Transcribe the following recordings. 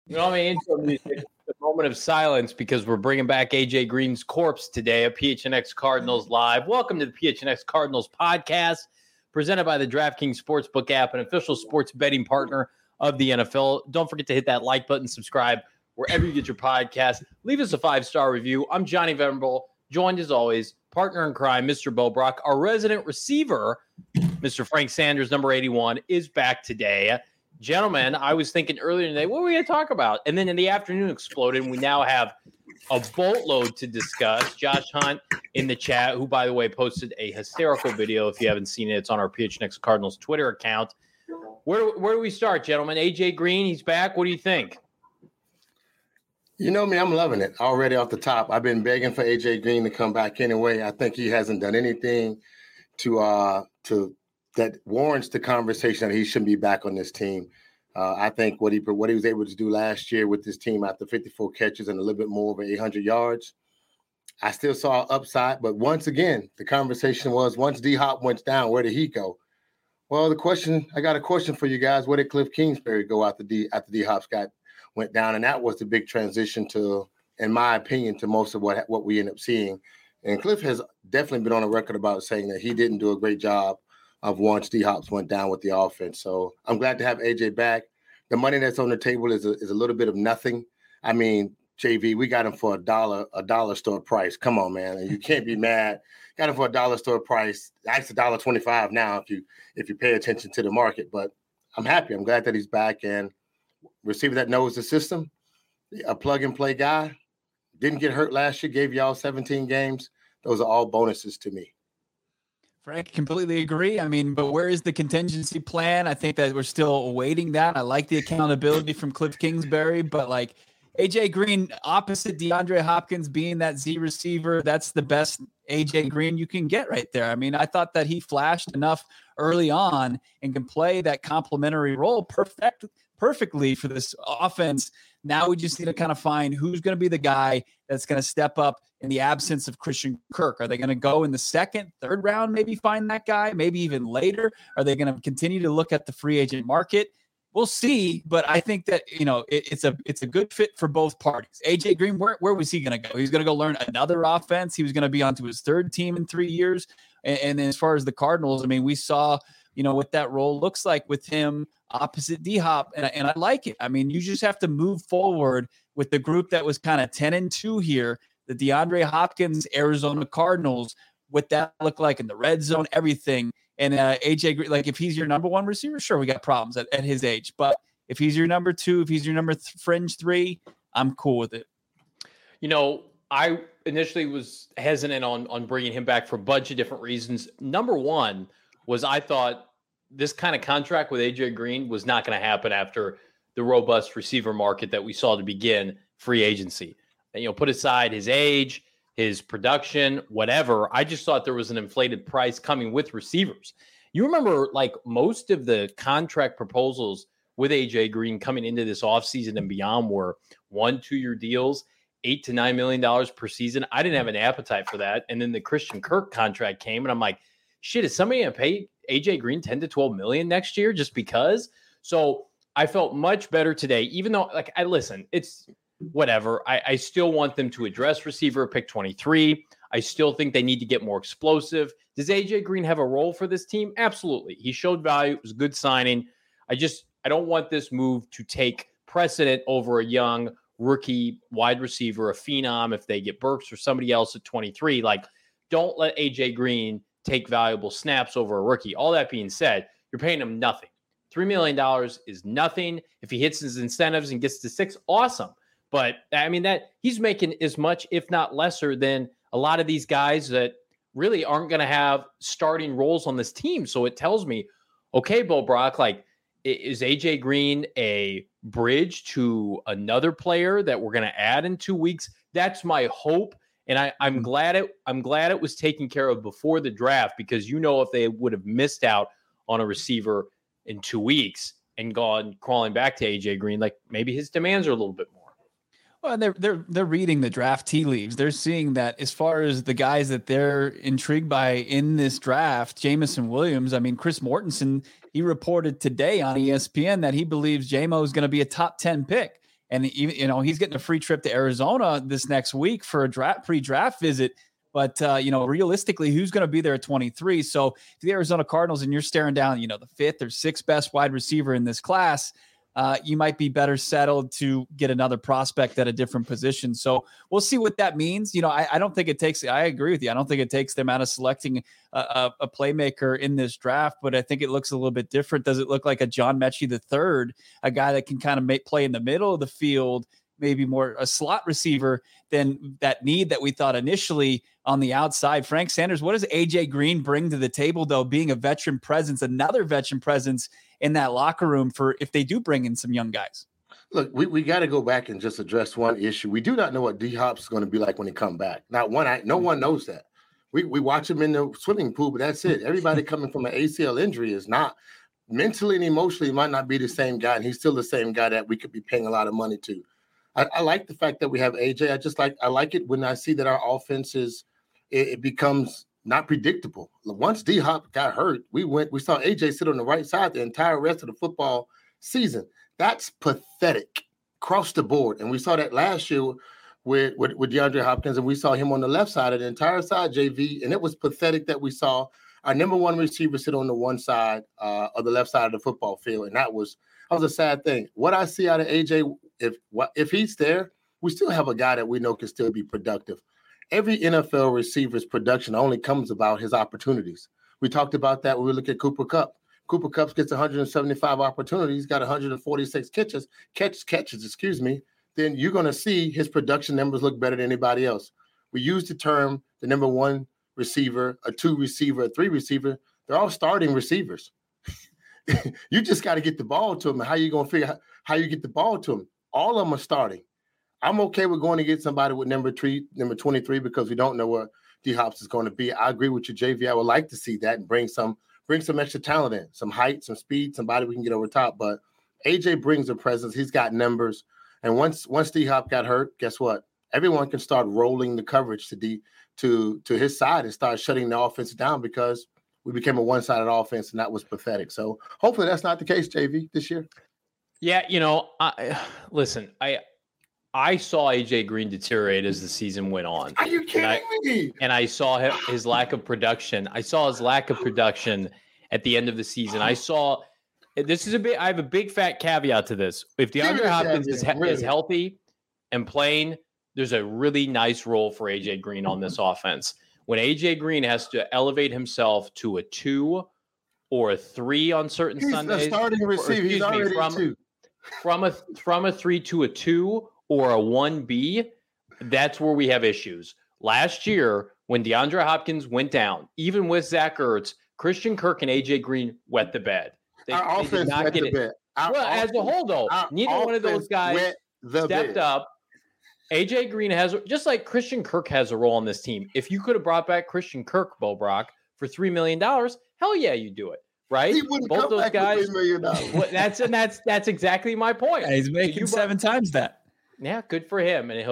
You know, intro music, a moment of silence because we're bringing back AJ Green's corpse today at PHNX Cardinals Live. Welcome to the PHNX Cardinals podcast, presented by the DraftKings Sportsbook app, an official sports betting partner of the NFL. Don't forget to hit that like button, subscribe wherever you get your podcast. Leave us a 5-star review. I'm Johnny Venerable, joined as always, partner in crime, Mr. Bo Brock. Our resident receiver, Mr. Frank Sanders, number 81, is back today. Gentlemen, I was thinking earlier today, what were we going to talk about? And then in the afternoon exploded, and we now have a boatload to discuss. Josh Hunt in the chat, who, by the way, posted a hysterical video. If you haven't seen it, it's on our PHNX Cardinals Twitter account. Where do we start, gentlemen? AJ Green, he's back. What do you think? You know me, I'm loving it already off the top. I've been begging for AJ Green to come back anyway. I think he hasn't done anything to that warrants the conversation that he shouldn't be back on this team. I think what he was able to do last year with this team after 54 catches and a little bit more over 800 yards, I still saw upside. But once again, the conversation was, once D-Hop went down, where did he go? Well, I got a question for you guys. Where did Cliff Kingsbury go after D-Hop went down? And that was the big transition to, in my opinion, to most of what we end up seeing. And Cliff has definitely been on a record about saying that he didn't do a great job of once D-Hops went down with the offense. So I'm glad to have AJ back. The money that's on the table is a little bit of nothing. I mean, JV, we got him for a dollar store price. Come on, man. And you can't be mad. Got him for a dollar store price. That's $1.25 now if you pay attention to the market. But I'm happy. I'm glad that he's back, and receiver that knows the system, a plug-and-play guy, didn't get hurt last year, gave y'all 17 games. Those are all bonuses to me. Frank, completely agree. I mean, but where is the contingency plan? I think that we're still awaiting that. I like the accountability from Cliff Kingsbury, but like AJ Green opposite DeAndre Hopkins being that Z receiver, that's the best AJ Green you can get right there. I mean, I thought that he flashed enough early on and can play that complementary role perfectly for this offense. Now we just need to kind of find who's going to be the guy that's going to step up in the absence of Christian Kirk. Are they going to go in the second, third round, maybe find that guy, maybe even later? Are they going to continue to look at the free agent market? We'll see, but I think that, it's a good fit for both parties. AJ Green, where was he going to go? He's going to go learn another offense. He was going to be onto his third team in 3 years. And then as far as the Cardinals, I mean, we saw, what that role looks like with him opposite D-Hop, and I like it. I mean, you just have to move forward with the group that was kind of 10-2 here, the DeAndre Hopkins, Arizona Cardinals, what that looked like in the red zone, everything. And AJ Green, like if he's your number one receiver, sure, we got problems at his age. But if he's your number two, if he's your fringe three, I'm cool with it. I initially was hesitant on bringing him back for a bunch of different reasons. Number one was I thought this kind of contract with AJ Green was not going to happen after the robust receiver market that we saw to begin free agency. And, put aside his age, his production, whatever. I just thought there was an inflated price coming with receivers. You remember, like, most of the contract proposals with AJ Green coming into this offseason and beyond were 1-2 year deals, $8 to $9 million per season. I didn't have an appetite for that. And then the Christian Kirk contract came, and I'm like, shit, is somebody going to pay AJ Green 10 to 12 million next year just because? So I felt much better today, even though, like, it's whatever. I still want them to address receiver pick 23. I still think they need to get more explosive. Does AJ Green have a role for this team? Absolutely. He showed value. It was a good signing. I don't want this move to take precedent over a young rookie wide receiver, a phenom, if they get Burks or somebody else at 23. Like, don't let AJ Green take valuable snaps over a rookie. All that being said, you're paying him nothing. $3 million is nothing. If he hits his incentives and gets to 6, awesome. But I mean, that he's making as much, if not lesser, than a lot of these guys that really aren't going to have starting roles on this team. So it tells me, okay, Bo Brock, like, is AJ Green a bridge to another player that we're going to add in 2 weeks? That's my hope. And I'm glad it was taken care of before the draft, because if they would have missed out on a receiver in 2 weeks and gone crawling back to AJ Green, like maybe his demands are a little bit more. Well, they're reading the draft tea leaves. They're seeing that as far as the guys that they're intrigued by in this draft, Jameson Williams. I mean, Chris Mortensen, he reported today on ESPN that he believes JMO is going to be a top 10 pick. And even, he's getting a free trip to Arizona this next week for a pre-draft visit. But, realistically, who's going to be there at 23? So if the Arizona Cardinals and you're staring down, the fifth or sixth best wide receiver in this class, you might be better settled to get another prospect at a different position. So we'll see what that means. I don't think it takes, I agree with you. I don't think it takes them out of selecting a playmaker in this draft, but I think it looks a little bit different. Does it look like a John Mechie III, a guy that can kind of play in the middle of the field, maybe more a slot receiver than that need that we thought initially on the outside? Frank Sanders, what does AJ Green bring to the table, though, being a veteran presence, another veteran presence in that locker room for if they do bring in some young guys? Look, we got to go back and just address one issue. We do not know what D-Hop is going to be like when he come back. No one knows that. We watch him in the swimming pool, but that's it. Everybody coming from an ACL injury is not mentally and emotionally might not be the same guy, and he's still the same guy that we could be paying a lot of money to. I like the fact that we have AJ. I like it when I see that our offense it becomes not predictable. Once D-Hop got hurt, we saw AJ sit on the right side the entire rest of the football season. That's pathetic across the board. And we saw that last year with DeAndre Hopkins, and we saw him on the left side of the entire side, JV, and it was pathetic that we saw our number one receiver sit on the one side of the left side of the football field, and that was a sad thing. What I see out of AJ, if he's there, we still have a guy that we know can still be productive. Every NFL receiver's production only comes about his opportunities. We talked about that when we look at Cooper Kupp. Cooper Kupp gets 175 opportunities. He's got 146 catches, then you're going to see his production numbers look better than anybody else. We use the term the number one receiver, a two receiver, a three receiver. They're all starting receivers. You just got to get the ball to them. How you going to figure out how you get the ball to them? All of them are starting. I'm okay with going to get somebody with number 23, because we don't know where D-Hops is going to be. I agree with you, JV. I would like to see that and bring some extra talent in, some height, some speed, somebody we can get over top. But AJ brings a presence. He's got numbers. And once D-Hop got hurt, guess what? Everyone can start rolling the coverage to his side and start shutting the offense down, because we became a one-sided offense, and that was pathetic. So hopefully that's not the case, JV, this year. Yeah, listen, I saw AJ Green deteriorate as the season went on. Are you kidding me? And I saw his lack of production. I saw his lack of production at the end of the season. I have a big fat caveat to this. If DeAndre Hopkins is healthy and playing, there's a really nice role for AJ Green on this offense. When AJ Green has to elevate himself to a 2 or a 3 on certain Sundays, he's a starting receiver. He's already a 2. From a 3 to a 2 or a 1B, that's where we have issues. Last year, when DeAndre Hopkins went down, even with Zach Ertz, Christian Kirk and AJ Green wet the bed. Our offense wet the bed. As a whole, though, neither one of those guys stepped up. AJ Green has, just like Christian Kirk has a role on this team. If you could have brought back Christian Kirk, Bo Brock, for $3 million, hell yeah, you do it, right? He wouldn't Both come those back guys. with $3 million. That's exactly my point. Yeah, he's making 7 times that. Yeah, good for him. And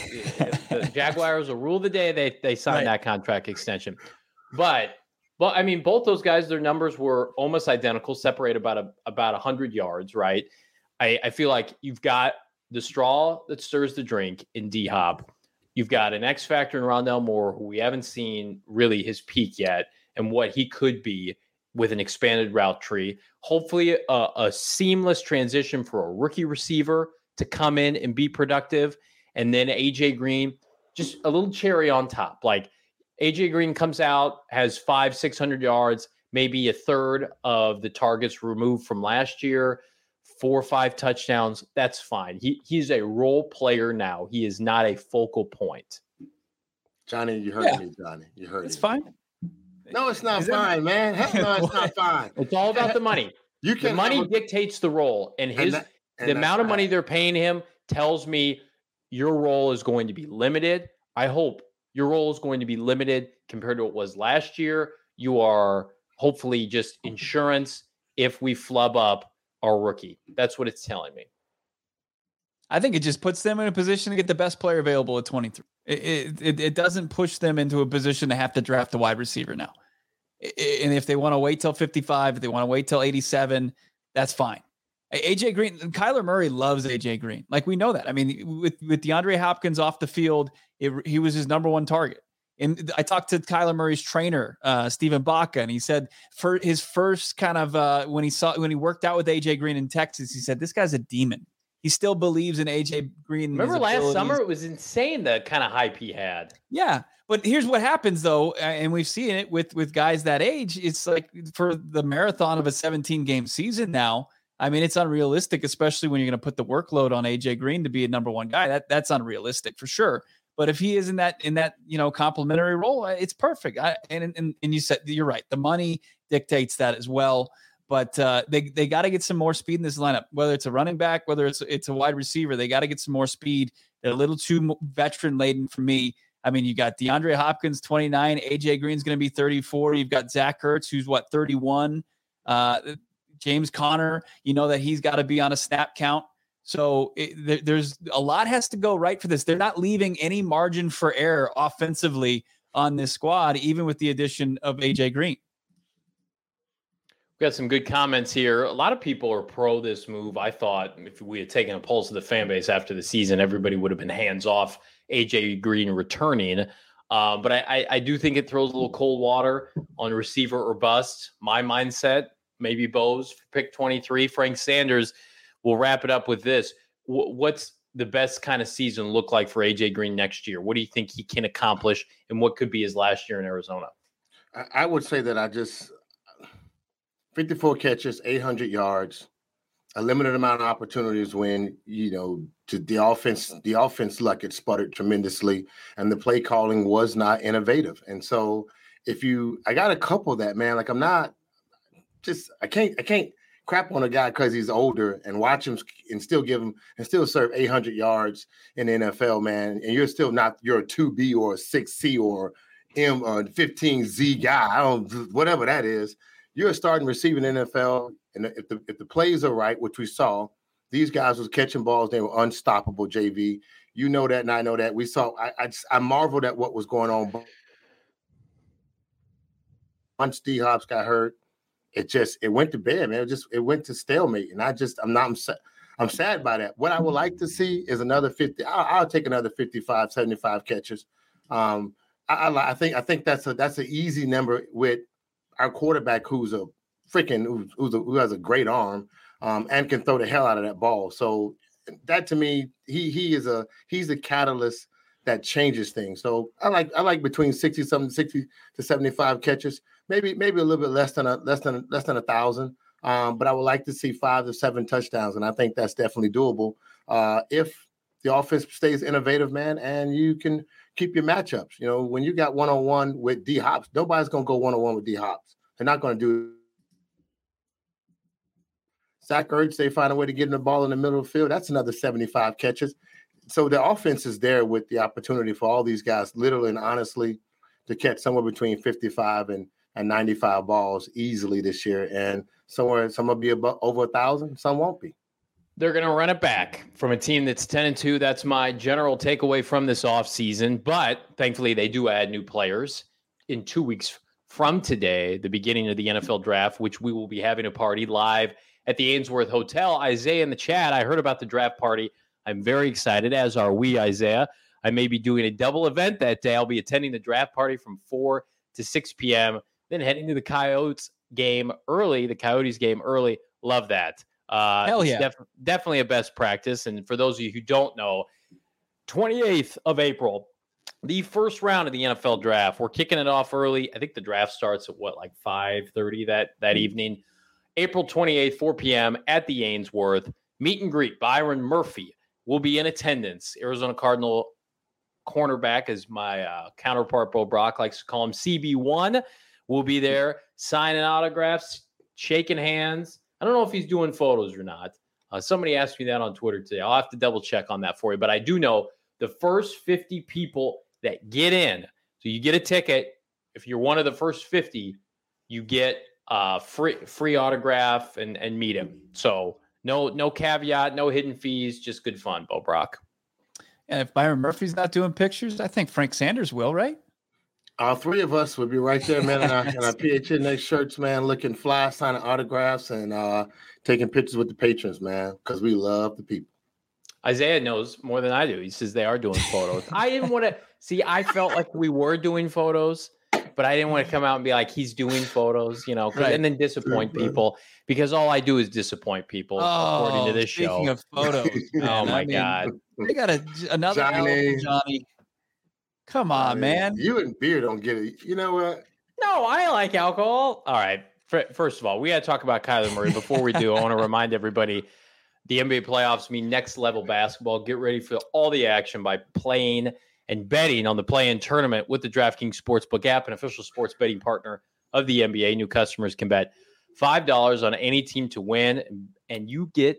the Jaguars will rule the day they sign that contract extension. But I mean, both those guys, their numbers were almost identical, separated about 100 yards, right? I feel like you've got the straw that stirs the drink in D-Hop. You've got an X factor in Rondale Moore, who we haven't seen really his peak yet, and what he could be with an expanded route tree. Hopefully a seamless transition for a rookie receiver to come in and be productive. And then AJ Green, just a little cherry on top. Like AJ Green comes out, has 500-600 yards, maybe a third of the targets removed from last year, 4 or 5 touchdowns. That's fine. He's a role player now. He is not a focal point. Johnny, you heard me, Johnny. You heard me. It's fine. No, it's not fine, man. Heck no, it's not fine. It's all about the money. The money dictates the role, and the amount of money they're paying him tells me your role is going to be limited. I hope your role is going to be limited compared to what it was last year. You are hopefully just insurance if we flub up our rookie. That's what it's telling me. I think it just puts them in a position to get the best player available at 23. It doesn't push them into a position to have to draft a wide receiver now. And if they want to wait till 55, if they want to wait till 87, that's fine. AJ Green, Kyler Murray loves AJ Green. Like, we know that. I mean, with DeAndre Hopkins off the field, he was his number one target. And I talked to Kyler Murray's trainer, Stephen Baca, and he said for his first kind of when he worked out with AJ Green in Texas, he said, this guy's a demon. He still believes in AJ Green. Remember last summer, it was insane the kind of hype he had. Yeah. But here's what happens, though, and we've seen it with guys that age. It's like for the marathon of a 17-game season now, I mean, it's unrealistic, especially when you're going to put the workload on AJ Green to be a number one guy. That's unrealistic for sure. But if he is in that complimentary role, it's perfect. And you said you're right. The money dictates that as well. But they got to get some more speed in this lineup. Whether it's a running back, whether it's a wide receiver, they got to get some more speed. They're a little too veteran laden for me. I mean, you got DeAndre Hopkins, 29. AJ Green's going to be 34. You've got Zach Ertz, who's 31. James Conner, you know that he's got to be on a snap count. So there's a lot has to go right for this. They're not leaving any margin for error offensively on this squad, even with the addition of AJ Green. We got some good comments here. A lot of people are pro this move. I thought if we had taken a pulse of the fan base after the season, everybody would have been hands off AJ Green returning. But I do think it throws a little cold water on receiver or bust. My mindset, maybe Bose for pick 23. Frank Sanders. We'll wrap it up with this. What's the best kind of season look like for AJ Green next year? What do you think he can accomplish, and what could be his last year in Arizona? I would say that 54 catches, 800 yards, a limited amount of opportunities when, to the offense luck, it sputtered tremendously, and the play calling was not innovative. And so I got a couple of that, man. Like, I can't crap on a guy because he's older and watch him and still serve 800 yards in the NFL, man. And you're a 2B or a 6C or M or 15Z guy. Whatever that is. You're starting receiving NFL, and if the plays are right, which we saw, these guys was catching balls. They were unstoppable, JV. You know that, and I know that. We saw. I marveled at what was going on. Once D Hops got hurt, it went to bed, man. It went to stalemate, and I'm sad by that. What I would like to see is another 50. I'll take another 55, 75 catches. I think that's an easy number with our quarterback who has a great arm and can throw the hell out of that ball. So that, to me, he's a catalyst that changes things. So I like between 60 to 75 catches, maybe a little bit less than 1,000. But I would like to see 5 to 7 touchdowns, and I think that's definitely doable if the offense stays innovative, man, and you can keep your matchups. When you got one-on-one with D Hops, nobody's going to go one-on-one with D Hops. They're not going to do it. Zach Ertz, they find a way to get in the ball in the middle of the field. That's another 75 catches. So the offense is there with the opportunity for all these guys, literally and honestly, to catch somewhere between 55 and 95 balls easily this year. And some will be over 1,000, some won't be. They're going to run it back from a team that's 10-2. That's my general takeaway from this offseason. But thankfully, they do add new players in 2 weeks from today, the beginning of the NFL draft, which we will be having a party live at the Ainsworth Hotel. Isaiah in the chat, I heard about the draft party. I'm very excited, as are we, Isaiah. I may be doing a double event that day. I'll be attending the draft party from 4 to 6 p.m., then heading to the Coyotes game early. Love that. Hell yeah. Definitely a best practice. And for those of you who don't know, 28th of April, the first round of the NFL draft. We're kicking it off early. I think the draft starts at 5:30 that evening. April 28th, 4 p.m. at the Ainsworth. Meet and greet. Byron Murphy will be in attendance. Arizona Cardinal cornerback, as my counterpart Bo Brock likes to call him, CB1, will be there signing autographs, shaking hands. I don't know if he's doing photos or not. Somebody asked me that on Twitter today. I'll have to double check on that for you. But I do know the first 50 people that get in, so you get a ticket. If you're one of the first 50, you get free autograph and meet him. So no caveat, no hidden fees, just good fun, Bo Brock. And if Byron Murphy's not doing pictures, I think Frank Sanders will, right? All three of us would be right there, man, in our PHNX shirts, man, looking fly, signing autographs, and taking pictures with the patrons, man, because we love the people. Isaiah knows more than I do. He says they are doing photos. I didn't want to see. I felt like we were doing photos, but I didn't want to come out and be like, he's doing photos, you know, Right. and then disappoint people, because all I do is disappoint people, according to this show. Speaking of photos, Oh my God. They got another Johnny. Johnny. Come on, man. You and beer don't get it. You know what? No, I like alcohol. All right. First of all, we got to talk about Kyler Murray. Before we do, I want to remind everybody the NBA playoffs mean next level basketball. Get ready for all the action by playing and betting on the play-in tournament with the DraftKings Sportsbook app, an official sports betting partner of the NBA. New customers can bet $5 on any team to win, and you get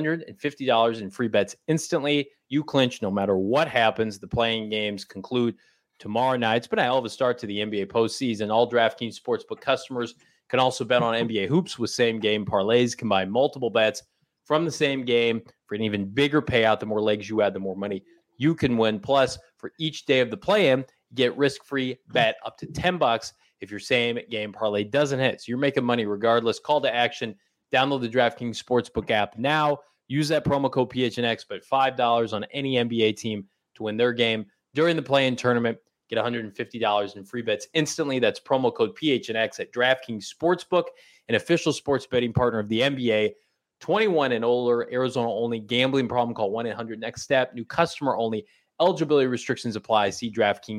$150 in free bets instantly. You clinch no matter what happens. The playing games conclude tomorrow night. It's been a hell of a start to the NBA postseason. All DraftKings Sportsbook customers can also bet on NBA hoops with same-game parlays. Combine multiple bets from the same game for an even bigger payout. The more legs you add, the more money you can win. Plus, for each day of the play-in, you get risk-free bet up to $10 if your same-game parlay doesn't hit. So you're making money regardless. Call to action. Download the DraftKings Sportsbook app now. Use that promo code PHNX, but $5 on any NBA team to win their game during the play-in tournament. Get $150 in free bets instantly. That's promo code PHNX at DraftKings Sportsbook, an official sports betting partner of the NBA. 21 and older, Arizona only. Gambling problem, call 1-800-NEXT-STEP. New customer only. Eligibility restrictions apply. See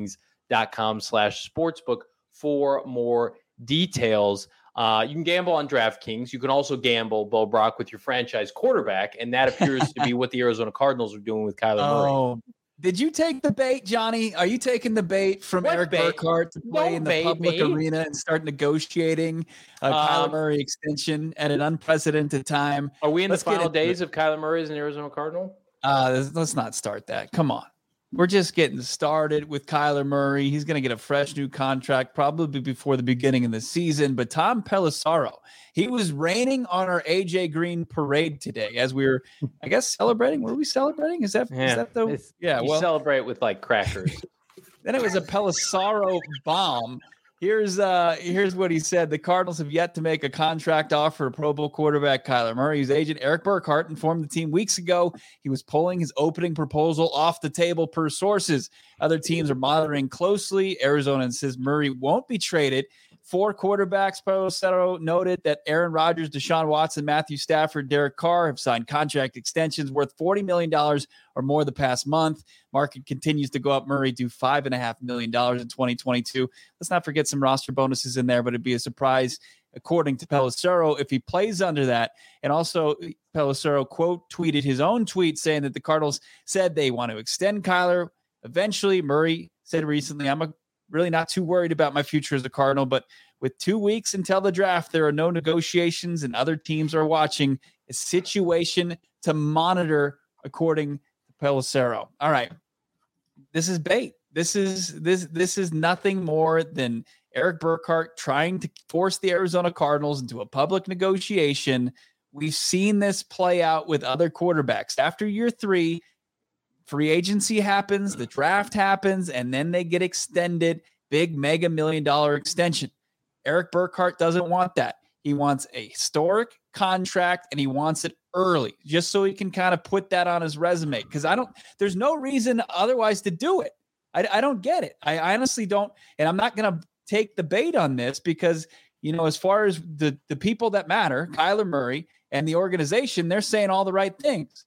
DraftKings.com/sportsbook for more details. You can gamble on DraftKings. You can also gamble, Bo Brock, with your franchise quarterback, and that appears to be what the Arizona Cardinals are doing with Kyler Murray. Did you take the bait, Johnny? Are you taking the bait from Eric Burkhart to play in the public arena and start negotiating a Kyler Murray extension at an unprecedented time? Are we in the final days of Kyler Murray as an Arizona Cardinal? Let's not start that. Come on. We're just getting started with Kyler Murray. He's going to get a fresh new contract probably before the beginning of the season. But Tom Pelissero, he was raining on our AJ Green parade today as we were, I guess, celebrating. Were we celebrating? Is that the? Yeah, you celebrate with like crackers. Then it was a Pelissero bomb. Here's what he said. The Cardinals have yet to make a contract offer to Pro Bowl quarterback Kyler Murray. His agent, Eric Burkhart, informed the team weeks ago he was pulling his opening proposal off the table per sources. Other teams are monitoring closely. Arizona says Murray won't be traded. 4 quarterbacks, Pelissero noted that Aaron Rodgers, Deshaun Watson, Matthew Stafford, Derek Carr have signed contract extensions worth $40 million or more the past month. Market continues to go up. Murray due $5.5 million in 2022. Let's not forget some roster bonuses in there, but it'd be a surprise, according to Pelissero, if he plays under that. And also, Pelissero quote tweeted his own tweet saying that the Cardinals said they want to extend Kyler. Eventually, Murray said recently, I'm really not too worried about my future as a Cardinal, but with 2 weeks until the draft, there are no negotiations and other teams are watching. A situation to monitor, according to Pelissero. All right. This is bait. This is nothing more than Eric Burkhart trying to force the Arizona Cardinals into a public negotiation. We've seen this play out with other quarterbacks. After year 3, free agency happens, the draft happens, and then they get extended, big mega $1 million extension. Eric Burkhart doesn't want that. He wants a historic contract, and he wants it early, just so he can kind of put that on his resume. Because there's no reason otherwise to do it. I don't get it. I honestly don't, and I'm not going to take the bait on this because, as far as the people that matter, Kyler Murray and the organization, they're saying all the right things.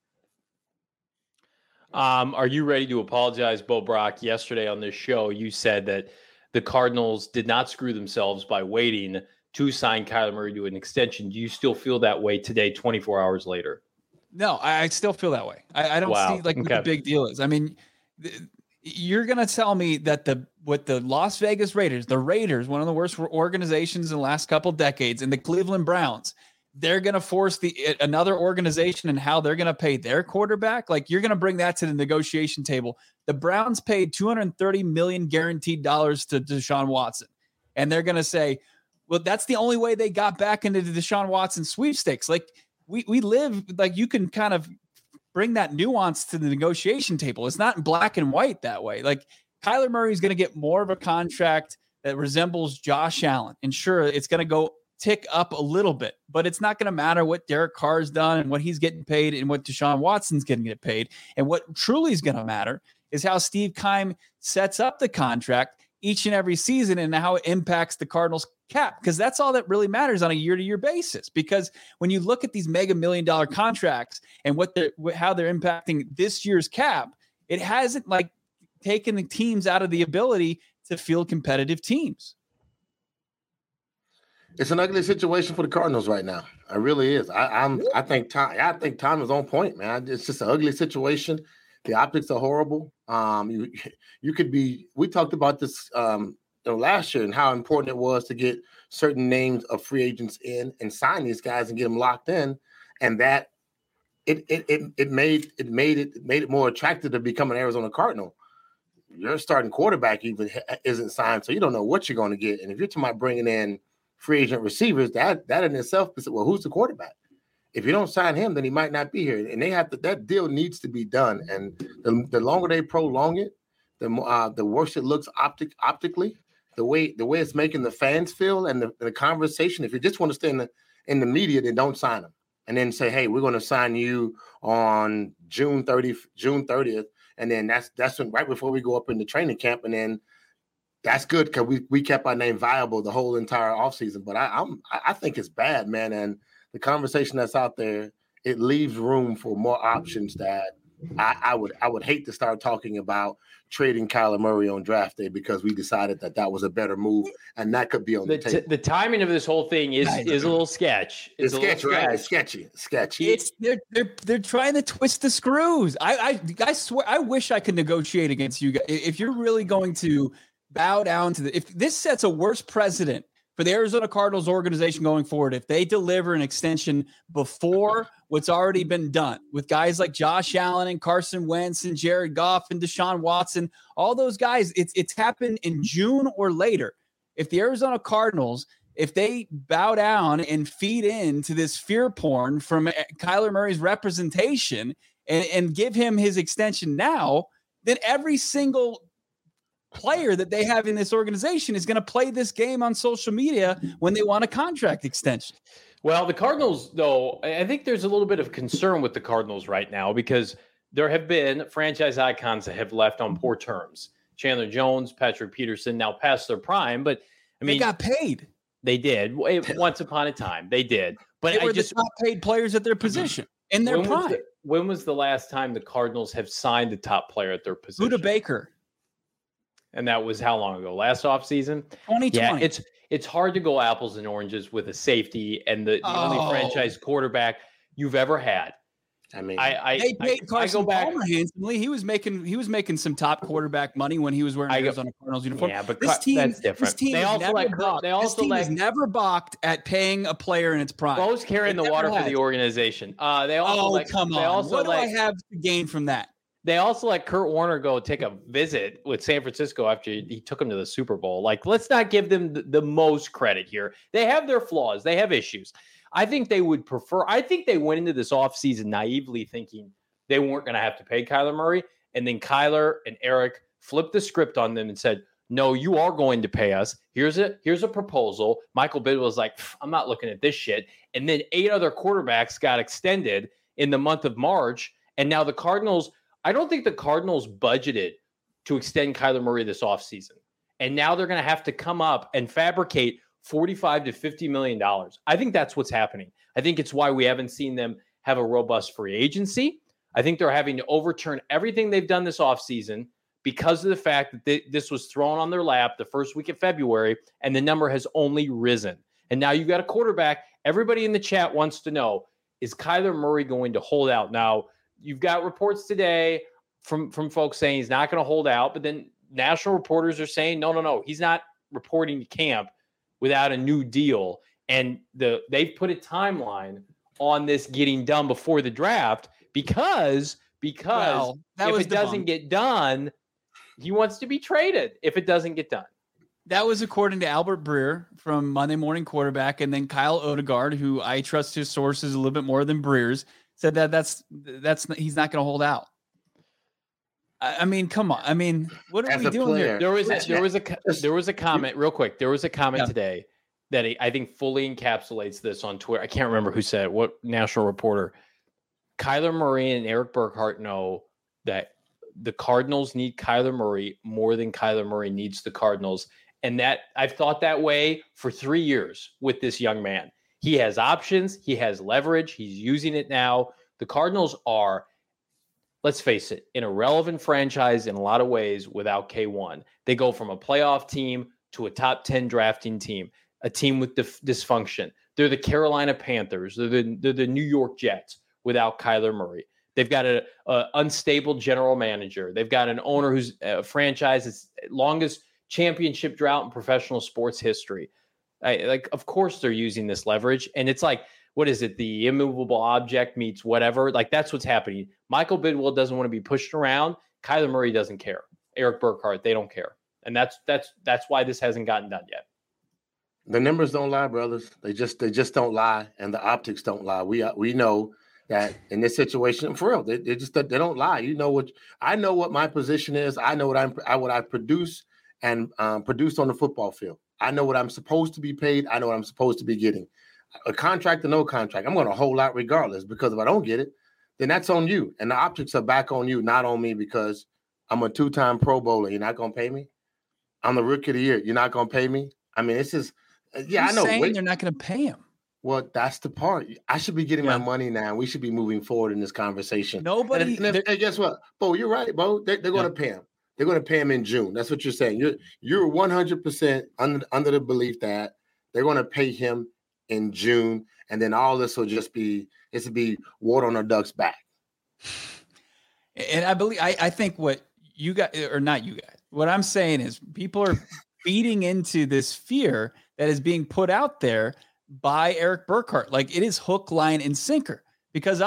Are you ready to apologize, Bo Brock? Yesterday on this show, you said that the Cardinals did not screw themselves by waiting to sign Kyler Murray to an extension. Do you still feel that way today, 24 hours later? No, I still feel that way. I don't see what the big deal is. I mean, you're going to tell me that the Las Vegas Raiders, one of the worst organizations in the last couple decades, and the Cleveland Browns, they're going to force another organization and how they're going to pay their quarterback. Like, you're going to bring that to the negotiation table. The Browns paid $230 million guaranteed dollars to Deshaun Watson. And they're going to say, well, that's the only way they got back into the Deshaun Watson sweepstakes. Like, we live, like, you can kind of bring that nuance to the negotiation table. It's not in black and white that way. Like, Kyler Murray is going to get more of a contract that resembles Josh Allen. And sure, it's going to go tick up a little bit, but it's not going to matter what Derek Carr's done and what he's getting paid and what Deshaun Watson's getting get paid. And what truly is going to matter is how Steve Keim sets up the contract each and every season and how it impacts the Cardinals cap, because that's all that really matters on a year-to-year basis. Because when you look at these mega $1 million contracts and how they're impacting this year's cap, it hasn't like taken the teams out of the ability to field competitive teams. It's an ugly situation for the Cardinals right now. It really is. I think Tom is on point, man. It's just an ugly situation. The optics are horrible. We talked about this last year and how important it was to get certain names of free agents in and sign these guys and get them locked in, and that it made it more attractive to become an Arizona Cardinal. Your starting quarterback even isn't signed, so you don't know what you're going to get. And if you're talking about bringing in free agent receivers, that in itself is, well, who's the quarterback? If you don't sign him, then he might not be here. And that deal needs to be done. And the longer they prolong it, the worse it looks optically. The way it's making the fans feel and the conversation. If you just want to stay in the media, then don't sign him. And then say, hey, we're going to sign you on June 30th. And then that's when, right before we go up into training camp. And then that's good because we kept our name viable the whole entire offseason. But I think it's bad, man. And the conversation that's out there, it leaves room for more options that I would hate to start talking about trading Kyler Murray on draft day because we decided that was a better move, and that could be on the table. The timing of this whole thing is a little sketch. It's sketchy, right? It's sketchy. It's they're trying to twist the screws. I swear, I wish I could negotiate against you guys. If you're really going to bow down to if this sets a worse precedent for the Arizona Cardinals organization going forward, if they deliver an extension before what's already been done with guys like Josh Allen and Carson Wentz and Jared Goff and Deshaun Watson, all those guys, it's happened in June or later. If the Arizona Cardinals, if they bow down and feed into this fear porn from Kyler Murray's representation and give him his extension now, then every single player that they have in this organization is going to play this game on social media when they want a contract extension. Well, the Cardinals, though, I think there's a little bit of concern with the Cardinals right now because there have been franchise icons that have left on poor terms. Chandler Jones, Patrick Peterson, now past their prime, but I mean, they got paid. They did. Once upon a time, they did. But they were the top paid players at their position in their prime. When was the last time the Cardinals have signed a top player at their position? Budda Baker. And that was how long ago? Last offseason? 2020. Yeah, it's hard to go apples and oranges with a safety and the only franchise quarterback you've ever had. I mean, they paid Carson Palmer handsomely. He was making some top quarterback money when he was wearing Arizona Cardinals uniform. Yeah, but that's different. This team has never balked at paying a player in its prime. Bo's carrying the water for the organization. They also come on. What do I have to gain from that? They also let Kurt Warner go take a visit with San Francisco after he took him to the Super Bowl. Like, let's not give them the most credit here. They have their flaws. They have issues. I think they would prefer – I think they went into this offseason naively thinking they weren't going to have to pay Kyler Murray. And then Kyler and Eric flipped the script on them and said, no, you are going to pay us. Here's a proposal. Michael Bidwill was like, I'm not looking at this shit. And then 8 other quarterbacks got extended in the month of March. And now the Cardinals – I don't think the Cardinals budgeted to extend Kyler Murray this offseason. And now they're going to have to come up and fabricate $45 to $50 million. I think that's what's happening. I think it's why we haven't seen them have a robust free agency. I think they're having to overturn everything they've done this offseason because of the fact that this was thrown on their lap the first week of February, and the number has only risen. And now you've got a quarterback. Everybody in the chat wants to know, is Kyler Murray going to hold out? Now, you've got reports today from folks saying he's not going to hold out, but then national reporters are saying, no, he's not reporting to camp without a new deal. And they've put a timeline on this getting done before the draft because if it doesn't get done, he wants to be traded if it doesn't get done. That was according to Albert Breer from Monday Morning Quarterback, and then Kyle Odegaard, who I trust his sources a little bit more than Breer's, said that's he's not going to hold out. I mean, come on. I mean, what are As we a doing player, here? There was a comment real quick. There was a comment Yeah. today that I think fully encapsulates this on Twitter. I can't remember who said it, what national reporter. Kyler Murray and Eric Burkhart know that the Cardinals need Kyler Murray more than Kyler Murray needs the Cardinals. And that I've thought that way for 3 years with this young man. He has options. He has leverage. He's using it now. The Cardinals are, let's face it, an irrelevant franchise in a lot of ways without K1. They go from a playoff team to a top 10 drafting team, a team with dysfunction. They're the Carolina Panthers. They're the New York Jets without Kyler Murray. They've got an unstable general manager. They've got an owner who's a franchise's longest championship drought in professional sports history. Of course they're using this leverage. And it's like, what is it? The immovable object meets whatever. Like, that's what's happening. Michael Bidwell doesn't want to be pushed around. Kyler Murray doesn't care. Eric Burkhart, they don't care. And that's why this hasn't gotten done yet. The numbers don't lie, brothers. They just don't lie, and the optics don't lie. We know that in this situation, for real, they don't lie. You know what? I know what my position is. I know what I produce and produced on the football field. I know what I'm supposed to be paid. I know what I'm supposed to be getting. A contract or no contract, I'm going to hold out regardless, because if I don't get it, then that's on you. And the optics are back on you, not on me, because I'm a 2-time Pro Bowler. You're not going to pay me? I'm the Rookie of the Year. You're not going to pay me? I mean, it's just, yeah, I know. They're not going to pay him. Well, that's the part. I should be getting my money now. We should be moving forward in this conversation. Nobody. And guess what, Bo? You're right, Bo. They're going to pay him. They're going to pay him in June. That's what you're saying. You're 100% under the belief that they're going to pay him in June, and then all this will just be water on a duck's back. And I think what you guys, or not you guys, what I'm saying is people are feeding into this fear that is being put out there by Eric Burkhart. Like, it is hook, line, and sinker. Because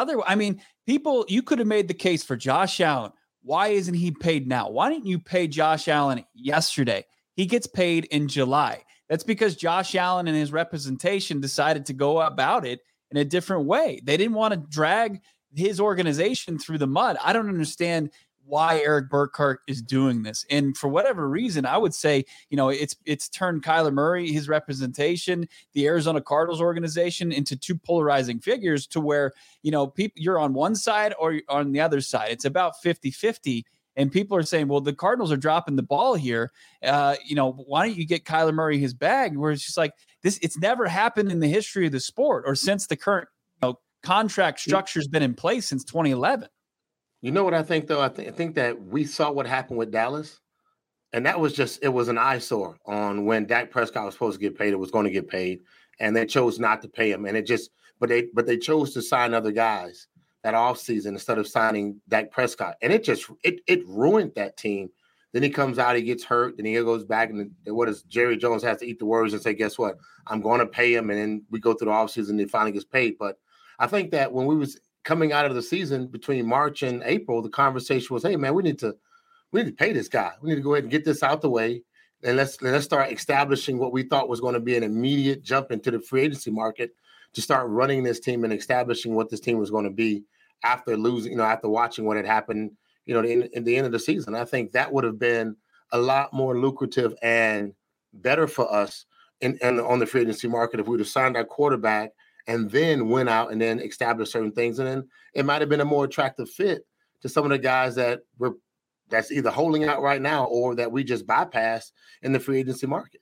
you could have made the case for Josh Allen. Why isn't he paid now? Why didn't you pay Josh Allen yesterday? He gets paid in July. That's because Josh Allen and his representation decided to go about it in a different way. They didn't want to drag his organization through the mud. I don't understand why Eric Burkhart is doing this. And for whatever reason, I would say, it's turned Kyler Murray, his representation, the Arizona Cardinals organization, into two polarizing figures, to where, you're on one side or on the other side. It's about 50-50. And people are saying, well, the Cardinals are dropping the ball here. Why don't you get Kyler Murray his bag? Where it's just like this, it's never happened in the history of the sport, or since the current contract structure has been in place since 2011. You know what I think, though? I think that we saw what happened with Dallas, and that was it was an eyesore on when Dak Prescott was supposed to get paid. It was going to get paid, and they chose not to pay him. And but they chose to sign other guys that offseason instead of signing Dak Prescott. And it ruined that team. Then he comes out, he gets hurt, then he goes back, and Jerry Jones has to eat the words and say, guess what? I'm going to pay him. And then we go through the offseason and he finally gets paid. But I think that when we was coming out of the season between March and April, the conversation was, hey, man, we need to pay this guy. We need to go ahead and get this out the way. And let's start establishing what we thought was going to be an immediate jump into the free agency market, to start running this team and establishing what this team was going to be after losing, after watching what had happened, in the end of the season. I think that would have been a lot more lucrative and better for us and on the free agency market if we would have signed our quarterback and then went out and then established certain things. And then it might have been a more attractive fit to some of the guys that's either holding out right now or that we just bypassed in the free agency market.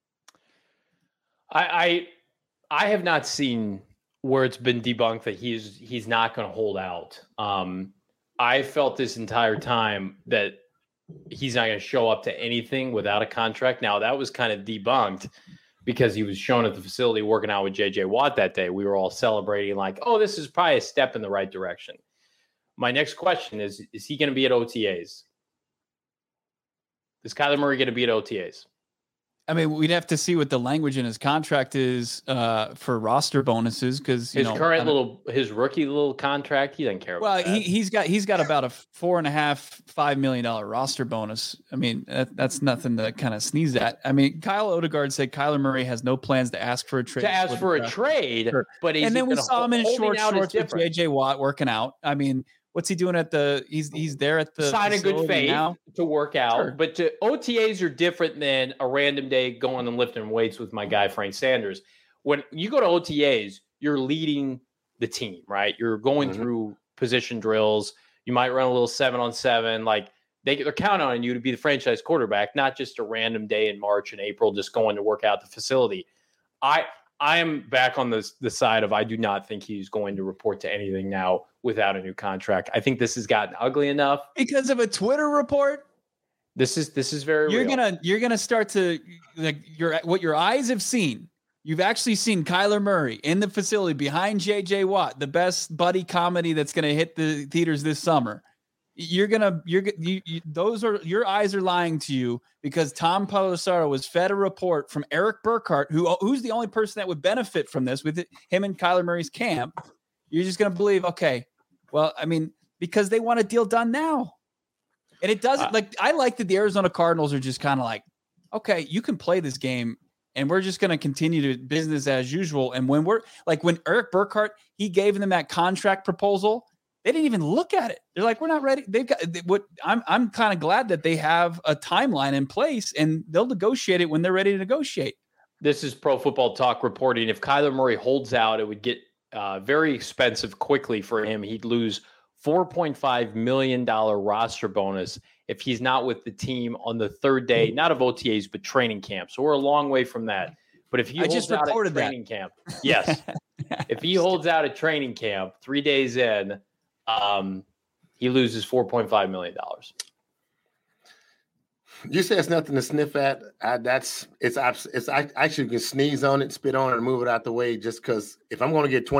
I have not seen where it's been debunked that he's not going to hold out. I felt this entire time that he's not going to show up to anything without a contract. Now, that was kind of debunked because he was shown at the facility working out with J.J. Watt that day. We were all celebrating like, oh, this is probably a step in the right direction. My next question is he going to be at OTAs? Is Kyler Murray going to be at OTAs? I mean, we'd have to see what the language in his contract is for roster bonuses, because his rookie little contract, he doesn't care about that. Well, he's got about a $4.5 million roster bonus. I mean, that's nothing to kind of sneeze at. I mean, Kyle Odegaard said Kyler Murray has no plans to ask for a trade. Sure. But and then we saw him in short shorts with J.J. Watt working out. I mean, What's he doing at the? He's there at the sign in good faith now to work out. Sure. But OTAs are different than a random day going and lifting weights with my guy Frank Sanders. When you go to OTAs, you're leading the team, right? You're going through position drills. You might run a little 7-on-7. Like they're counting on you to be the franchise quarterback, not just a random day in March and April just going to work out the facility. I am back on the side of I do not think he's going to report to anything now without a new contract. I think this has gotten ugly enough because of a Twitter report. This is very real. You're gonna start to like what your eyes have seen. You've actually seen Kyler Murray in the facility behind J.J. Watt, the best buddy comedy that's going to hit the theaters this summer. Your eyes are lying to you because Tom Pelissero was fed a report from Eric Burkhart, who's the only person that would benefit from this with him and Kyler Murray's camp. You're just going to believe, okay, well, I mean, because they want a deal done now. And it doesn't I like that the Arizona Cardinals are just kind of like, okay, you can play this game. And we're just going to continue to business as usual. And when when Eric Burkhart, he gave them that contract proposal, they didn't even look at it. They're like, we're not ready. I'm kind of glad that they have a timeline in place and they'll negotiate it when they're ready to negotiate. This is Pro Football Talk reporting. If Kyler Murray holds out, it would get very expensive quickly for him. He'd lose $4.5 million roster bonus if he's not with the team on the third day, not of OTAs, but training camp. So we're a long way from that. But if he holds out at training camp, yes, if he holds out at training camp 3 days in, he loses $4.5 million. You say it's nothing to sniff at. I actually can sneeze on it, spit on it, and move it out the way. Just because if I'm going to get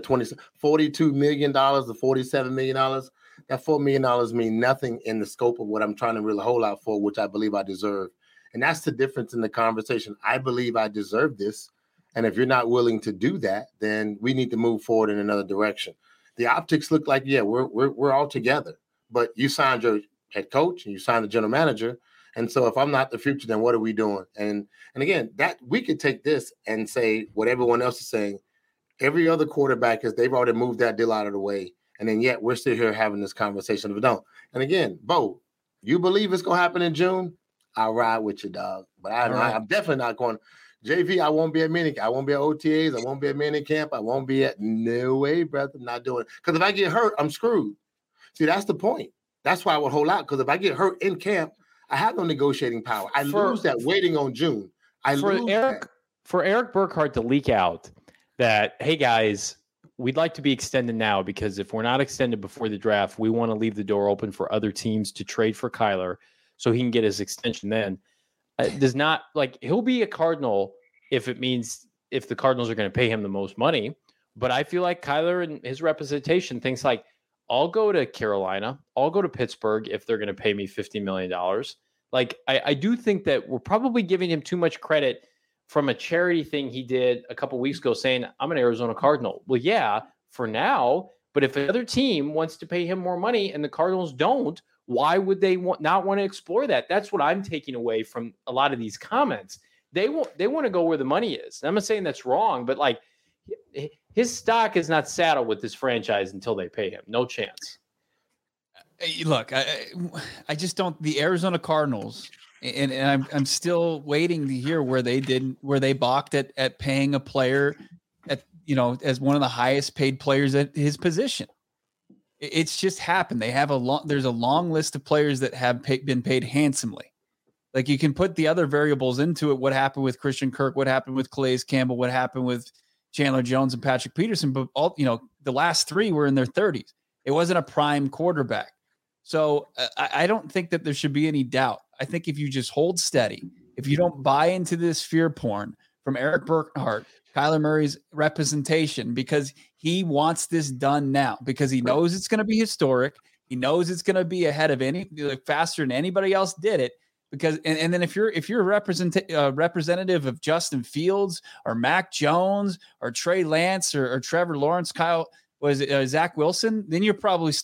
$42 million to $47 million. That $4 million mean nothing in the scope of what I'm trying to really hold out for, which I believe I deserve. And that's the difference in the conversation. I believe I deserve this. And if you're not willing to do that, then we need to move forward in another direction. The optics look like, yeah, we're all together. But you signed your head coach and you signed the general manager. And so if I'm not the future, then what are we doing? And again, that we could take this and say what everyone else is saying. Every other quarterback they've already moved that deal out of the way. And then yet we're still here having this conversation if we don't. And again, Bo, you believe it's going to happen in June? I'll ride with you, dog. But I'm definitely not going. JV, I won't be at minicamp. I won't be at OTAs. I won't be at minicamp. I won't be at no way, brother. I'm not doing it. Because if I get hurt, I'm screwed. See, that's the point. That's why I would hold out. Because if I get hurt in camp, I have no negotiating power. I lose that waiting on June. For Eric Burkhart to leak out that, hey, guys, we'd like to be extended now because if we're not extended before the draft, we want to leave the door open for other teams to trade for Kyler so he can get his extension then. Does not he'll be a Cardinal if the Cardinals are going to pay him the most money. But I feel like Kyler and his representation thinks like, I'll go to Carolina. I'll go to Pittsburgh if they're going to pay me $50 million. Like, I do think that we're probably giving him too much credit from a charity thing he did a couple weeks ago saying, I'm an Arizona Cardinal. Well, yeah, for now. But if another team wants to pay him more money and the Cardinals don't, why would they not want to explore that? That's what I'm taking away from a lot of these comments. They want to go where the money is. I'm not saying that's wrong, but like his stock is not saddled with this franchise until they pay him. No chance. Look, I just don't. The Arizona Cardinals, and I'm still waiting to hear where they balked at paying a player as one of the highest paid players at his position. It's just happened. They have there's a long list of players that have been paid handsomely. Like you can put the other variables into it. What happened with Christian Kirk? What happened with Calais Campbell? What happened with Chandler Jones and Patrick Peterson? But the last three were in their 30s. It wasn't a prime quarterback. So I don't think that there should be any doubt. I think if you just hold steady, if you don't buy into this fear porn from Eric Burkhart, Kyler Murray's representation, because he wants this done now, because he knows it's going to be historic. He knows it's going to be ahead of faster than anybody else did it. Because and then if you're a representative of Justin Fields or Mac Jones or Trey Lance or Trevor Lawrence, Zach Wilson, then you'll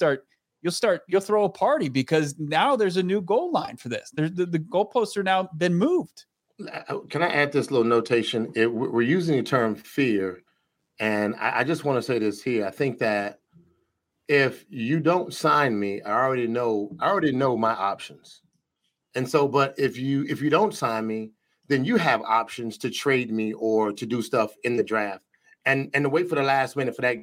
throw a party because now there's a new goal line for this. The goalposts are now been moved. Can I add this little notation? We're using the term fear, and I just want to say this here. I think that if you don't sign me, I already know my options. And so, but if you don't sign me, then you have options to trade me or to do stuff in the draft. And to wait for the last minute for that,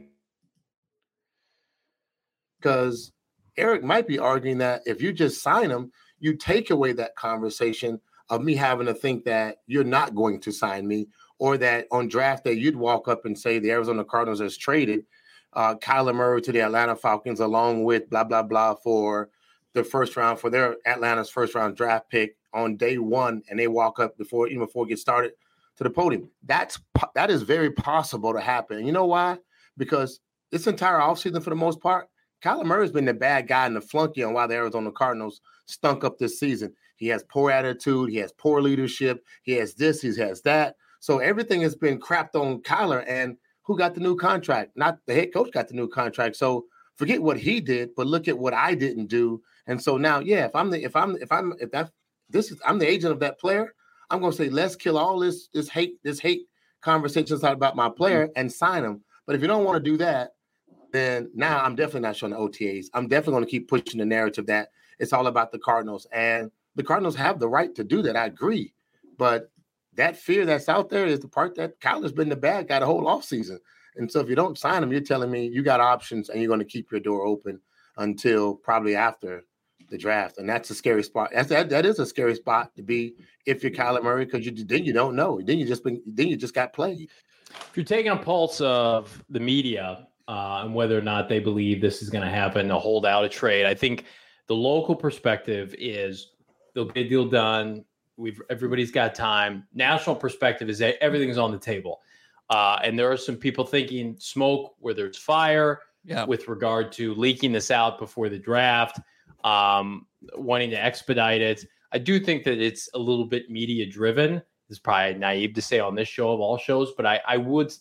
because Eric might be arguing that if you just sign him, you take away that conversation of me having to think that you're not going to sign me, or that on draft day you'd walk up and say the Arizona Cardinals has traded Kyler Murray to the Atlanta Falcons along with blah, blah, blah for the first round, for their Atlanta's first round draft pick on day one, and they walk up before it gets started to the podium. That is very possible to happen. And you know why? Because this entire offseason, for the most part, Kyler Murray's been the bad guy and the flunky on why the Arizona Cardinals stunk up this season. He has poor attitude. He has poor leadership. He has this. He has that. So everything has been crapped on Kyler. And who got the new contract? Not the head coach got the new contract. So forget what he did, but look at what I didn't do. And so now, yeah, I'm the agent of that player, I'm going to say, let's kill all this hate conversations about my player and sign him. But if you don't want to do that, then now I'm definitely not showing the OTAs. I'm definitely going to keep pushing the narrative that it's all about the Cardinals. And the Cardinals have the right to do that. I agree. But that fear that's out there is the part that Kyler's been the bad guy the whole offseason. And so if you don't sign him, you're telling me you got options and you're going to keep your door open until probably after the draft. And that's a scary spot. That is a scary spot to be if you're Kyler Murray, because then you don't know. Then you just got played. If you're taking a pulse of the media and whether or not they believe this is going to happen, to hold out a trade, I think the local perspective is they'll get a deal done. Everybody's got time. National perspective is that everything's on the table. And there are some people thinking smoke where there's fire with regard to leaking this out before the draft, wanting to expedite it. I do think that it's a little bit media driven. It's probably naive to say on this show of all shows, but I would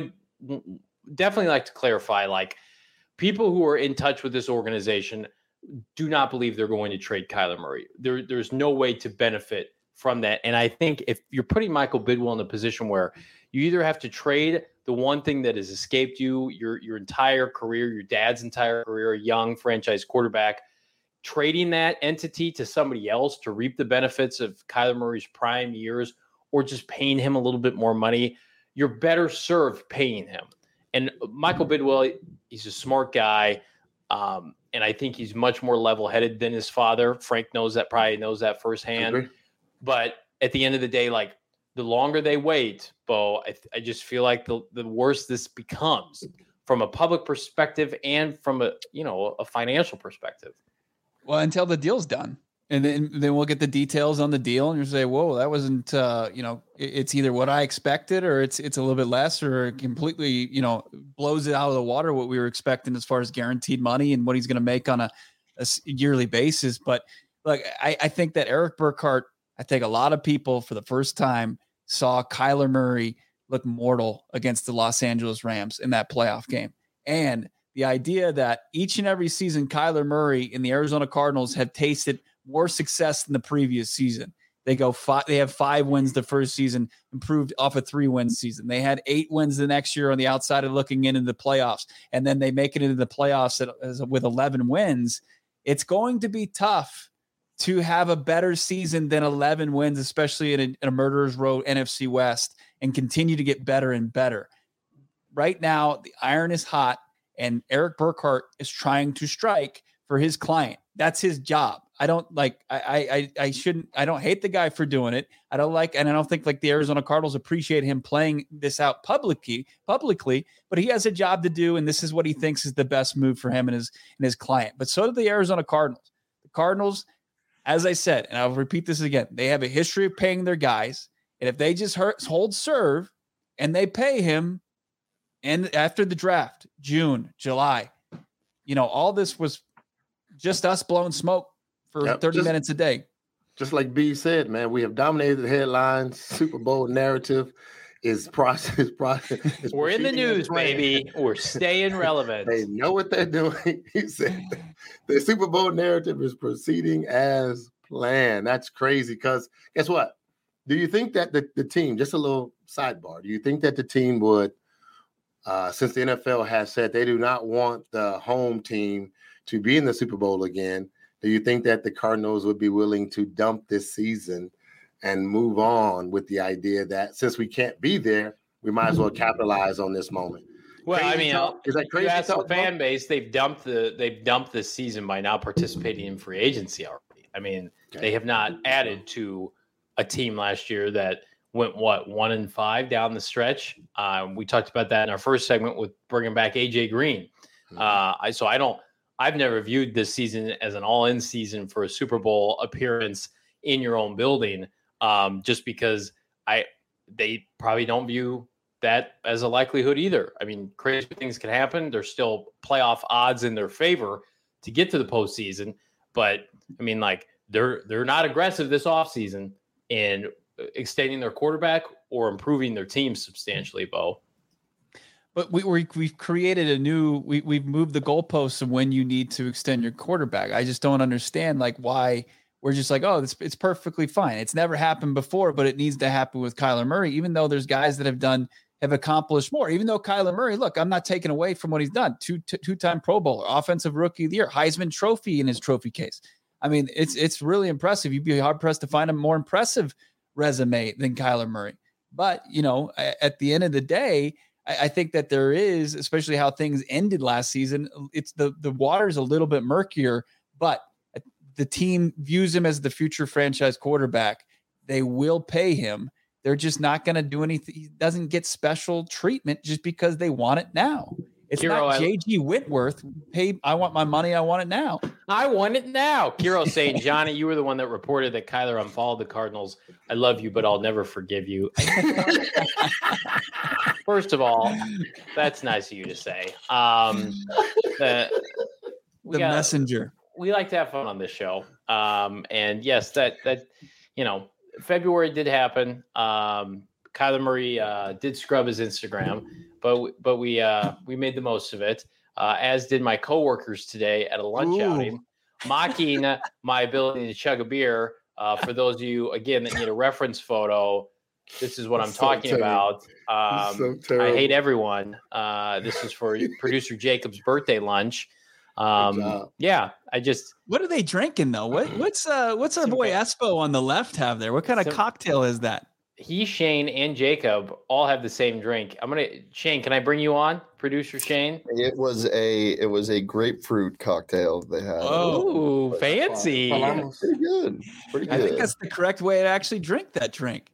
definitely like to clarify, like, people who are in touch with this organization do not believe they're going to trade Kyler Murray. There's no way to benefit from that. And I think if you're putting Michael Bidwill in a position where you either have to trade the one thing that has escaped you your entire career, your dad's entire career, a young franchise quarterback, trading that entity to somebody else to reap the benefits of Kyler Murray's prime years, or just paying him a little bit more money, you're better served paying him. And Michael Bidwill, he's a smart guy. And I think he's much more level-headed than his father. Frank probably knows that firsthand. But at the end of the day, like, the longer they wait, Bo, I just feel like the worse this becomes from a public perspective and from a financial perspective. Well, until the deal's done. And then we'll get the details on the deal, and you say, whoa, that wasn't, it's either what I expected, or it's a little bit less, or it completely, blows it out of the water what we were expecting as far as guaranteed money and what he's going to make on a yearly basis. But look, I think that Eric Burkhart, I think a lot of people for the first time saw Kyler Murray look mortal against the Los Angeles Rams in that playoff game. And the idea that each and every season Kyler Murray and the Arizona Cardinals have tasted more success than the previous season. They have 5 wins the first season, improved off a 3-win season. They had 8 wins the next year on the outside of looking into the playoffs. And then they make it into the playoffs with 11 wins. It's going to be tough to have a better season than 11 wins, especially in a murderer's row NFC West, and continue to get better and better. Right now, the iron is hot, and Eric Burkhart is trying to strike for his client. That's his job. I don't hate the guy for doing it. I don't think the Arizona Cardinals appreciate him playing this out publicly, but he has a job to do, and this is what he thinks is the best move for him and his client. But so do the Arizona Cardinals. The Cardinals, as I said, and I'll repeat this again, they have a history of paying their guys, and if they just hold serve and they pay him, and after the draft, June, July, all this was just us blowing smoke for 30 minutes a day. Just like B said, man, we have dominated the headlines. Super Bowl narrative is process. We're in the news, baby. We're staying relevant. They know what they're doing. He said the Super Bowl narrative is proceeding as planned. That's crazy, because guess what? Do you think that the team, just a little sidebar, do you think that the team would since the NFL has said they do not want the home team to be in the Super Bowl again, do you think that the Cardinals would be willing to dump this season and move on with the idea that since we can't be there, we might as well capitalize on this moment? Well, Crazy I mean, talk? Is that crazy? You ask the talk, fan base, they've dumped this season by not participating in free agency already. I mean, they have not added to a team last year that went 1-5 down the stretch. We talked about that in our first segment with bringing back AJ Green. I've never viewed this season as an all-in season for a Super Bowl appearance in your own building, just because they probably don't view that as a likelihood either. I mean, crazy things can happen. There's still playoff odds in their favor to get to the postseason, but I mean, like they're not aggressive this offseason in extending their quarterback or improving their team substantially, Bo. But we've created we've moved the goalposts of when you need to extend your quarterback. I just don't understand like why we're just like, oh, it's perfectly fine. It's never happened before, but it needs to happen with Kyler Murray, even though there's guys that have accomplished more. Even though Kyler Murray, look, I'm not taking away from what he's done. Two-time Pro Bowler, Offensive Rookie of the Year, Heisman Trophy in his trophy case. I mean, it's really impressive. You'd be hard pressed to find a more impressive resume than Kyler Murray. But, you know, at the end of the day, I think that there is, especially how things ended last season, it's the water's a little bit murkier, but the team views him as the future franchise quarterback. They will pay him. They're just not going to do anything. He doesn't get special treatment just because they want it now. It's Kiro, not J.G. Whitworth. Hey, I want my money. I want it now. I want it now. Kiro saying, Johnny, you were the one that reported that Kyler unfollowed the Cardinals. I love you, but I'll never forgive you. First of all, that's nice of you to say. The messenger. We like to have fun on this show. And yes, that February did happen. Kyler Murray did scrub his Instagram, but we made the most of it, as did my coworkers today at a lunch outing, mocking my ability to chug a beer. For those of you, again, that need a reference photo, this is what I'm talking about. I hate everyone. This is for producer Jacob's birthday lunch. Yeah, what are they drinking though? What's our boy Espo on the left have there? What kind of cocktail is that? He, Shane, and Jacob all have the same drink. Shane, can I bring you on, producer Shane? It was a grapefruit cocktail they had. Oh, fancy! Pretty good. I think that's the correct way to actually drink that drink.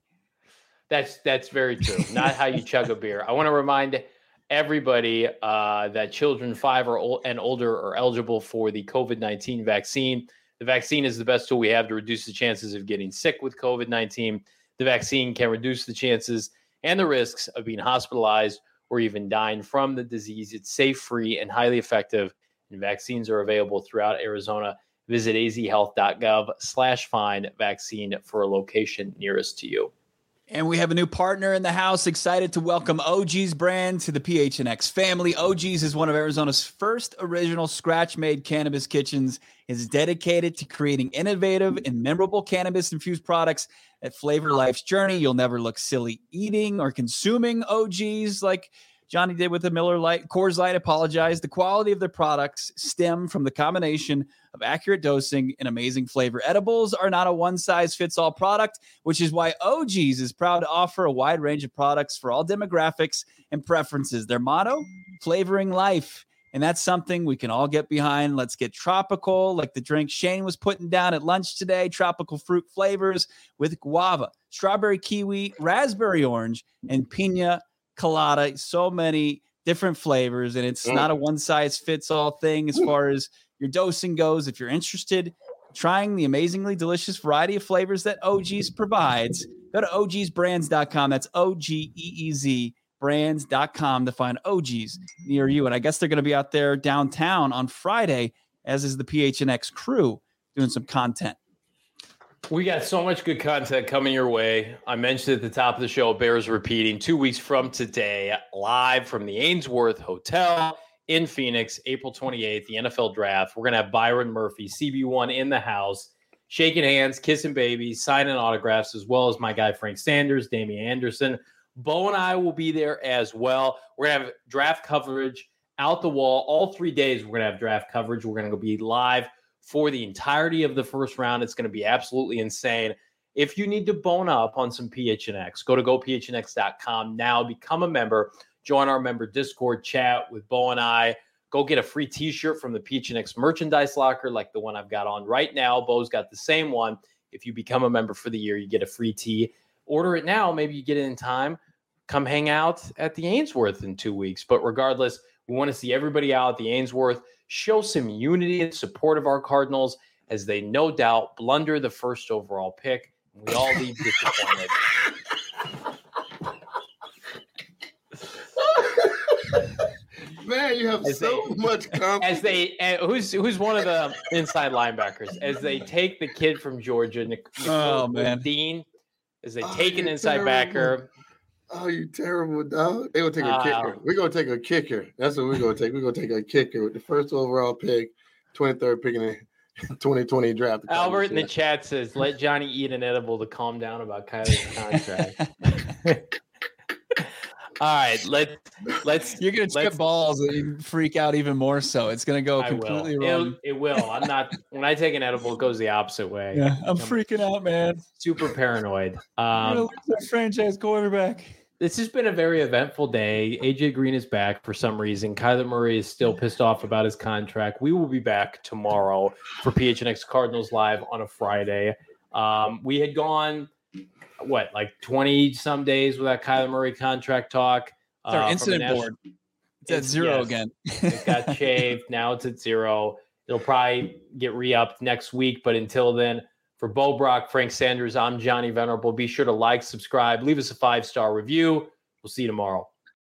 That's very true. Not how you chug a beer. I want to remind everybody that children 5 and older are eligible for the COVID-19 vaccine. The vaccine is the best tool we have to reduce the chances of getting sick with COVID-19. The vaccine can reduce the chances and the risks of being hospitalized or even dying from the disease. It's safe, free, and highly effective, and vaccines are available throughout Arizona. Visit azhealth.gov/find vaccine for a location nearest to you. And we have a new partner in the house. Excited to welcome OG's brand to the PHNX family. OG's is one of Arizona's first original scratch-made cannabis kitchens. It's dedicated to creating innovative and memorable cannabis-infused products that flavor life's journey. You'll never look silly eating or consuming OG's like Johnny did with the Miller Lite, Coors Light. The quality of their products stem from the combination of accurate dosing and amazing flavor. Edibles are not a one-size-fits-all product, which is why OG's is proud to offer a wide range of products for all demographics and preferences. Their motto, flavoring life. And that's something we can all get behind. Let's get tropical, like the drink Shane was putting down at lunch today. Tropical fruit flavors with guava, strawberry kiwi, raspberry orange, and pina colada. So many different flavors, and it's not a one-size-fits-all thing as far as your dosing goes. If you're interested in trying the amazingly delicious variety of flavors that OG's provides, go to ogsbrands.com. That's OGEEZ brands.com to find OG's near you. And I guess they're going to be out there downtown on Friday, as is the PHNX crew, doing some content. We got so much good content coming your way. I mentioned at the top of the show, bears repeating 2 weeks from today, live from the Ainsworth Hotel in Phoenix, April 28th, the NFL draft. We're going to have Byron Murphy, CB1 in the house, shaking hands, kissing babies, signing autographs, as well as my guy Frank Sanders, Damian Anderson, Bo and I will be there as well. We're going to have draft coverage out the wall. All 3 days, we're going to have draft coverage. We're going to be live for the entirety of the first round. It's going to be absolutely insane. If you need to bone up on some PHNX, go to gophnx.com now, become a member, join our member Discord chat with Bo and I. Go get a free t-shirt from the PHNX merchandise locker like the one I've got on right now. Bo's got the same one. If you become a member for the year, you get a free tee. Order it now. Maybe you get it in time. Come hang out at the Ainsworth in 2 weeks. But regardless, we want to see everybody out at the Ainsworth. Show some unity and support of our Cardinals as they no doubt blunder the first overall pick. We all leave disappointed. Man, you have much confidence. Who's one of the inside linebackers as they take the kid from Georgia, Dean, as they take an inside backer. Oh, you terrible dog! They gonna take a kicker. We're gonna take a kicker. That's what we're gonna take. We're gonna take a kicker with the first overall pick, 23rd pick in the 2020 draft. Albert in the chat says, "Let Johnny eat an edible to calm down about Kyler's contract." All right, let's. You're gonna trip balls and you freak out even more. So it's gonna go completely wrong. It will. I'm not. When I take an edible, it goes the opposite way. Yeah, I'm freaking out, man. Super paranoid. Our franchise quarterback. This has been a very eventful day. AJ Green is back for some reason. Kyler Murray is still pissed off about his contract. We will be back tomorrow for PHNX Cardinals Live on a Friday. We had gone, like 20 some days without Kyler Murray contract talk. It's our incident board. It's at zero again. It got shaved. Now it's at zero. It'll probably get re-upped next week. But until then, for Bo Brock, Frank Sanders, I'm Johnny Venerable. Be sure to like, subscribe, leave us a 5-star review. We'll see you tomorrow.